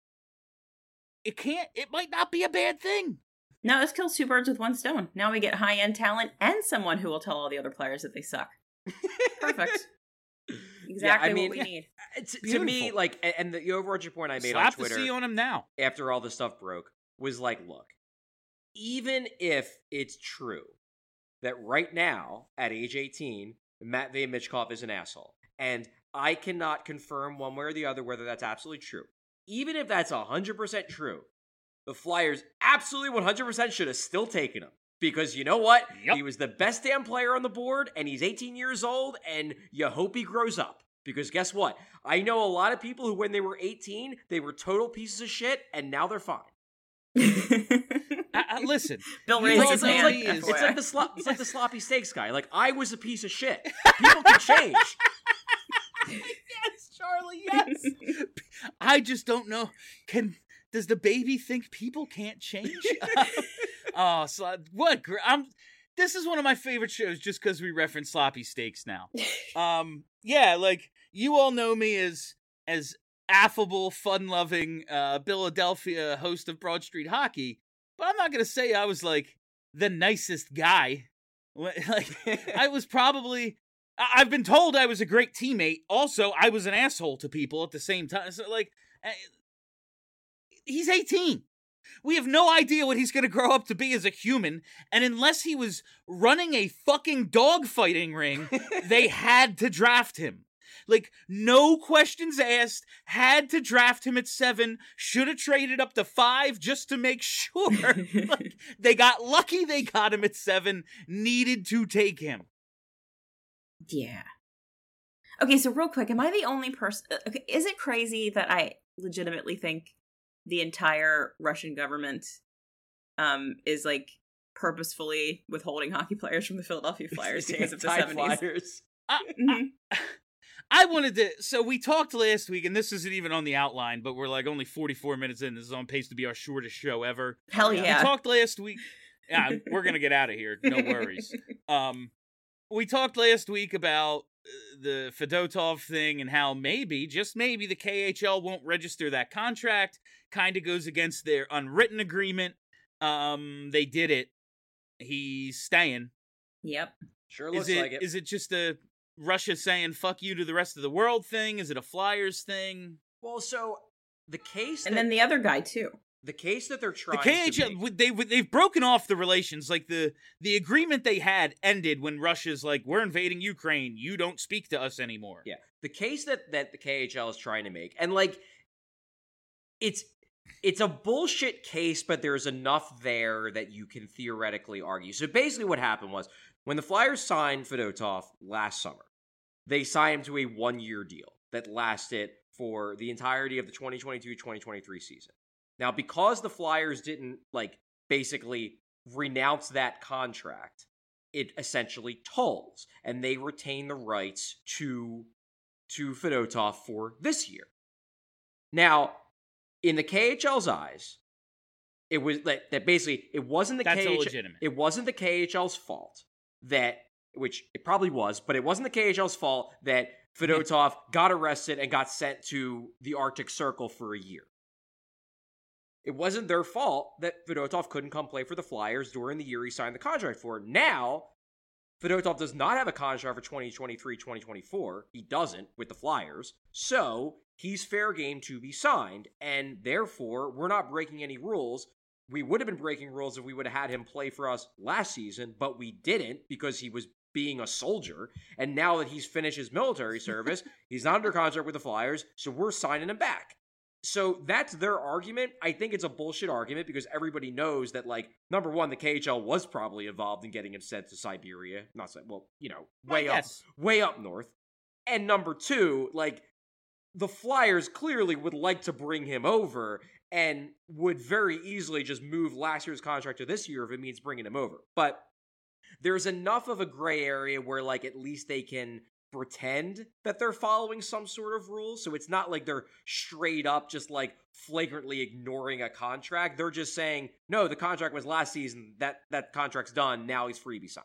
it can't, it might not be a bad thing. No, this kills two birds with one stone. Now we get high-end talent and someone who will tell all the other players that they suck. Perfect. Exactly I mean, what we need. Uh, t- to Beautiful. me, like, a- and the overarching point I made Slap on the Twitter C on him now. after all the stuff broke was like, look, even if it's true that right now, at age eighteen, Matvei Michkov is an asshole, and I cannot confirm one way or the other whether that's absolutely true. Even if that's one hundred percent true, the Flyers absolutely one hundred percent should have still taken him. Because you know what? Yep. He was the best damn player on the board, and he's eighteen years old, and you hope he grows up. Because guess what? I know a lot of people who, when they were eighteen, they were total pieces of shit, and now they're fine. Uh, uh, listen, Bill you raised all his know hand. he is- It's like the slop, it's like the sloppy steaks guy. Like, I was a piece of shit. People can change. Yes, Charlie, yes. I just don't know. Can does the baby think people can't change? Oh, so what? gr- I'm. This is one of my favorite shows just because we reference sloppy steaks now. Um, yeah, like you all know me as as affable, fun-loving uh, Philadelphia host of Broad Street Hockey, but I'm not gonna say I was like the nicest guy. Like I was probably. I- I've been told I was a great teammate. Also, I was an asshole to people at the same time. So, like, eh, he's eighteen. We have no idea what he's going to grow up to be as a human. And unless he was running a fucking dogfighting ring, they had to draft him. Like, no questions asked, had to draft him at seven, should have traded up to five just to make sure. Like, they got lucky they got him at seven, needed to take him. Yeah. Okay, so real quick, am I the only person... Okay, is it crazy that I legitimately think the entire Russian government um, is, like, purposefully withholding hockey players from the Philadelphia Flyers because of the seventies? Flyers. I, I, I wanted to... So we talked last week, and this isn't even on the outline, but we're, like, only forty-four minutes in. This is on pace to be our shortest show ever. Hell yeah. We talked last week... Yeah, we're going to get out of here. No worries. Um, we talked last week about the Fedotov thing and how maybe, just maybe, the K H L won't register that contract. Kind of goes against their unwritten agreement. Um, they did it. He's staying. Yep. Sure looks is it, like it. Is it just a Russia saying fuck you to the rest of the world thing? Is it a Flyers thing? Well, so the case And that, then the other guy, too. the case that they're trying The K H L, to make, they, they've broken off the relations. Like, the, the agreement they had ended when Russia's like, we're invading Ukraine. You don't speak to us anymore. yeah, the case that, that the K H L is trying to make, and like, it's it's a bullshit case, but there's enough there that you can theoretically argue. So basically what happened was, when the Flyers signed Fedotov last summer, they signed him to a one-year deal that lasted for the entirety of the twenty twenty-two twenty twenty-three season. Now, because the Flyers didn't, like, basically renounce that contract, it essentially tolls, and they retain the rights to, to Fedotov for this year. Now, in the K H L's eyes, it was that, that basically, it wasn't the That's K H L, illegitimate. it wasn't the K H L's fault that, which it probably was, but it wasn't the K H L's fault that Fedotov got arrested and got sent to the Arctic Circle for a year. It wasn't their fault that Fedotov couldn't come play for the Flyers during the year he signed the contract for. Now, Fedotov does not have a contract for twenty twenty-three twenty twenty-four. He doesn't with the Flyers. So, he's fair game to be signed, and therefore, we're not breaking any rules. We would have been breaking rules if we would have had him play for us last season, but we didn't because he was being a soldier. And now that he's finished his military service, he's not under contract with the Flyers, so we're signing him back. So that's their argument. I think it's a bullshit argument because everybody knows that, like, number one, the K H L was probably involved in getting him sent to Siberia. Not so, well, you know, way up, Yes. way up north. And number two, like, the Flyers clearly would like to bring him over and would very easily just move last year's contract to this year if it means bringing him over. But there's enough of a gray area where, like, at least they can pretend that they're following some sort of rules. So it's not like they're straight up just, like, flagrantly ignoring a contract. They're just saying, no, the contract was last season. That, that contract's done. Now he's free to be signed.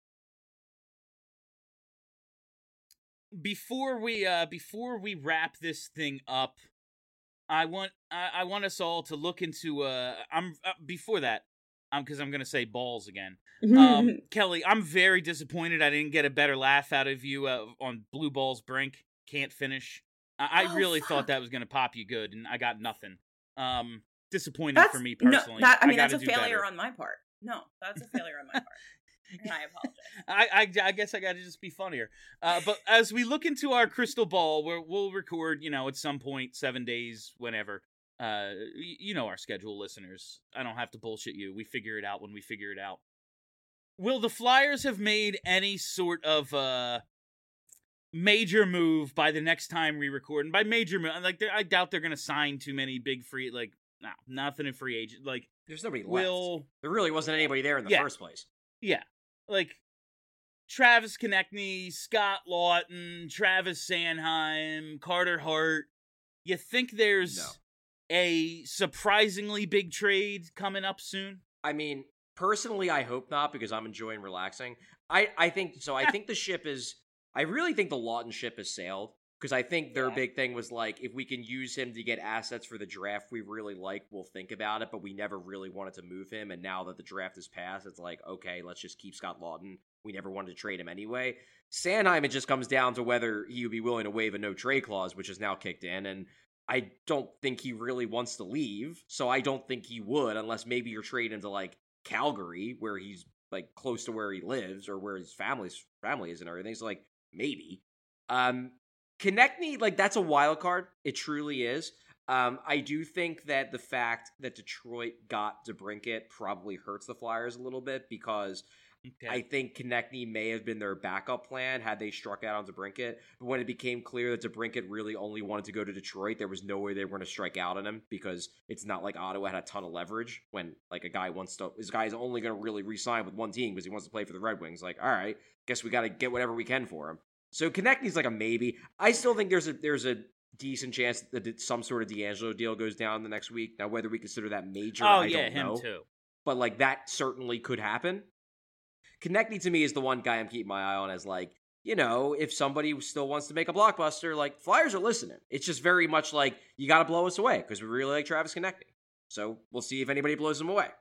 Before we uh before we wrap this thing up, I want I, I want us all to look into uh I'm uh, before that um because I'm gonna say balls again. Um, Kelly, I'm very disappointed I didn't get a better laugh out of you uh, on Blue Balls Brink. Can't finish. I, Oh, I really fuck. thought that was gonna pop you good, and I got nothing. Um, disappointing That's, for me no, personally. that, I mean, gotta that's a do failure better. on my part. No, that's a failure on my part. And I apologize. I, I, I guess I got to just be funnier. Uh, but as we look into our crystal ball, where we'll record, you know, at some point, seven days, whenever. Uh, y- you know our schedule, listeners. I don't have to bullshit you. We figure it out when we figure it out. Will the Flyers have made any sort of uh major move by the next time we record? And by major move, like they're- I doubt they're gonna sign too many big free, like no, nothing in free agent. Like There's nobody left. will. There really wasn't anybody there in the Yeah. first place. Yeah, like Travis Konechny, Scott Lawton, Travis Sanheim, Carter Hart. You think there's No. a surprisingly big trade coming up soon? I mean, personally, I hope not because I'm enjoying relaxing. I, I think so. I think the ship is. I really think the Lawton ship has sailed because I think their Yeah. big thing was like, if we can use him to get assets for the draft we really like, we'll think about it. But we never really wanted to move him, and now that the draft is passed, it's like, okay, let's just keep Scott Lawton. We never wanted to trade him anyway. Sanheim, it just comes down to whether he would be willing to waive a no trade clause, which is now kicked in, and I don't think he really wants to leave, so I don't think he would, unless maybe you're trading him to like Calgary, where he's like close to where he lives or where his family's family is and everything. So like maybe. Um, Konechny, like, that's a wild card. It truly is. Um, I do think that the fact that Detroit got DeBrincat probably hurts the Flyers a little bit because okay. I think Konechny may have been their backup plan had they struck out on DeBrincat. But when it became clear that DeBrincat really only wanted to go to Detroit, there was no way they were going to strike out on him because it's not like Ottawa had a ton of leverage when like a guy wants to. This guy is only going to really re-sign with one team because he wants to play for the Red Wings. Like, all right, guess we got to get whatever we can for him. So Konechny's like a maybe. I still think there's a there's a decent chance that some sort of D'Angelo deal goes down the next week. Now, whether we consider that major, oh, I yeah, don't him know. Too. But like that certainly could happen. Konechny to me is the one guy I'm keeping my eye on as like, you know, if somebody still wants to make a blockbuster, like Flyers are listening. It's just very much like you got to blow us away because we really like Travis Konechny. So we'll see if anybody blows him away.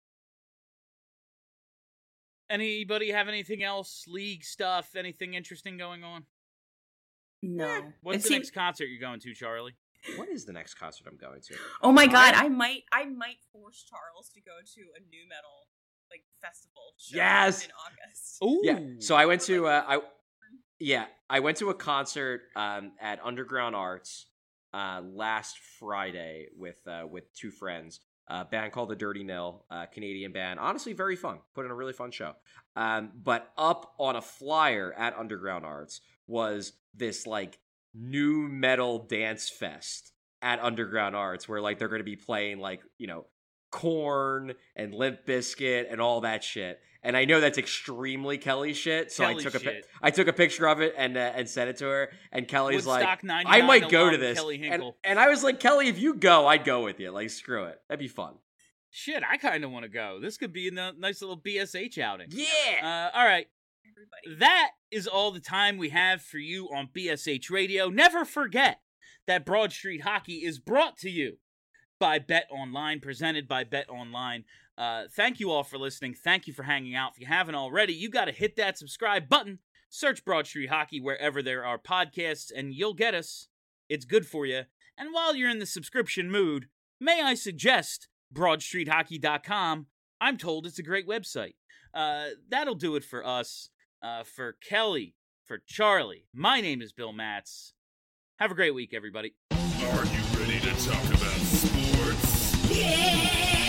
Anybody have anything else? League stuff? Anything interesting going on? No. What's it the seems- next concert you're going to, Charlie? What is the next concert I'm going to? Oh my god, I might I might force Charles to go to a nu metal like festival show yes! in August. Ooh. Yeah. So I went to uh, I yeah, I went to a concert um, at Underground Arts uh, last Friday with uh, with two friends. A band called The Dirty Nil, a Canadian band. Honestly, very fun. Put in a really fun show. Um, but up on a flyer at Underground Arts was this like new metal dance fest at Underground Arts where like they're going to be playing like, you know, Korn and Limp Bizkit and all that shit. And I know that's extremely Kelly shit, so Kelly I took a shit. I took a picture of it and uh, and sent it to her. And Kelly's Woodstock like, I might go to alum this. Kelly And, Hinkle. and I was like, Kelly, if you go, I'd go with you. Like, screw it, that'd be fun. Shit, I kind of want to go. This could be a n- nice little B S H outing. Yeah. Uh, all right. Everybody. That is all the time we have for you on B S H Radio. Never forget that Broad Street Hockey is brought to you by Bet Online, presented by Bet Online. Uh, thank you all for listening. Thank you for hanging out. If you haven't already, you got to hit that subscribe button. Search Broad Street Hockey wherever there are podcasts, and you'll get us. It's good for you. And while you're in the subscription mood, may I suggest broad street hockey dot com? I'm told it's a great website. Uh, that'll do it for us. Uh, for Kelly, for Charlie, my name is Bill Matz. Have a great week, everybody. Are you ready to talk about sports? Yeah!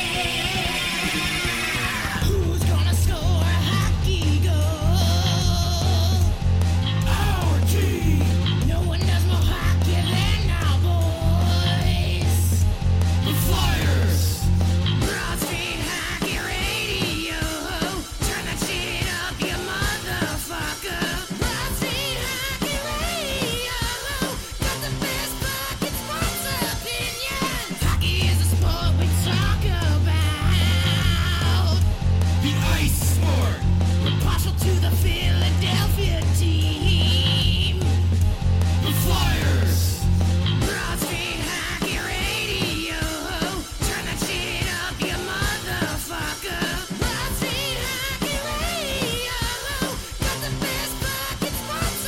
Who's gonna score a hockey goal? Our team! No one does more hockey than our boys. The Flyers! Broad Street Hockey Radio. Turn that shit up, you motherfucker. Broad Street Hockey Radio. Got the best fucking sports opinions. Hockey is a sport we talk about. The ice sport. We're partial to the Philadelphia team. The Flyers. Broad Street Hockey Radio. Turn that shit up, you motherfucker. Broad Street Hockey Radio. Got the best fucking sports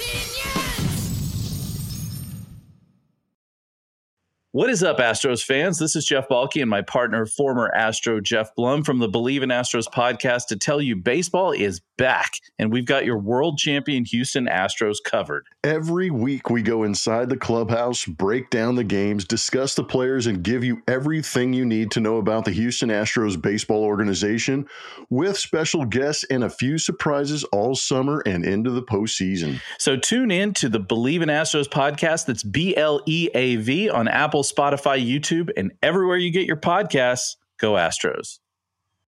opinions. What is up, Astros fans? This is Jeff Balke and my partner, former Astro Jeff Blum from the Believe in Astros podcast to tell you baseball is back, and we've got your world champion Houston Astros covered. Every week we go inside the clubhouse, break down the games, discuss the players, and give you everything you need to know about the Houston Astros baseball organization with special guests and a few surprises all summer and into the postseason. So tune in to the Believe in Astros podcast. That's B L E A V on Apple, Spotify, YouTube, and everywhere you get your podcasts. Go Astros.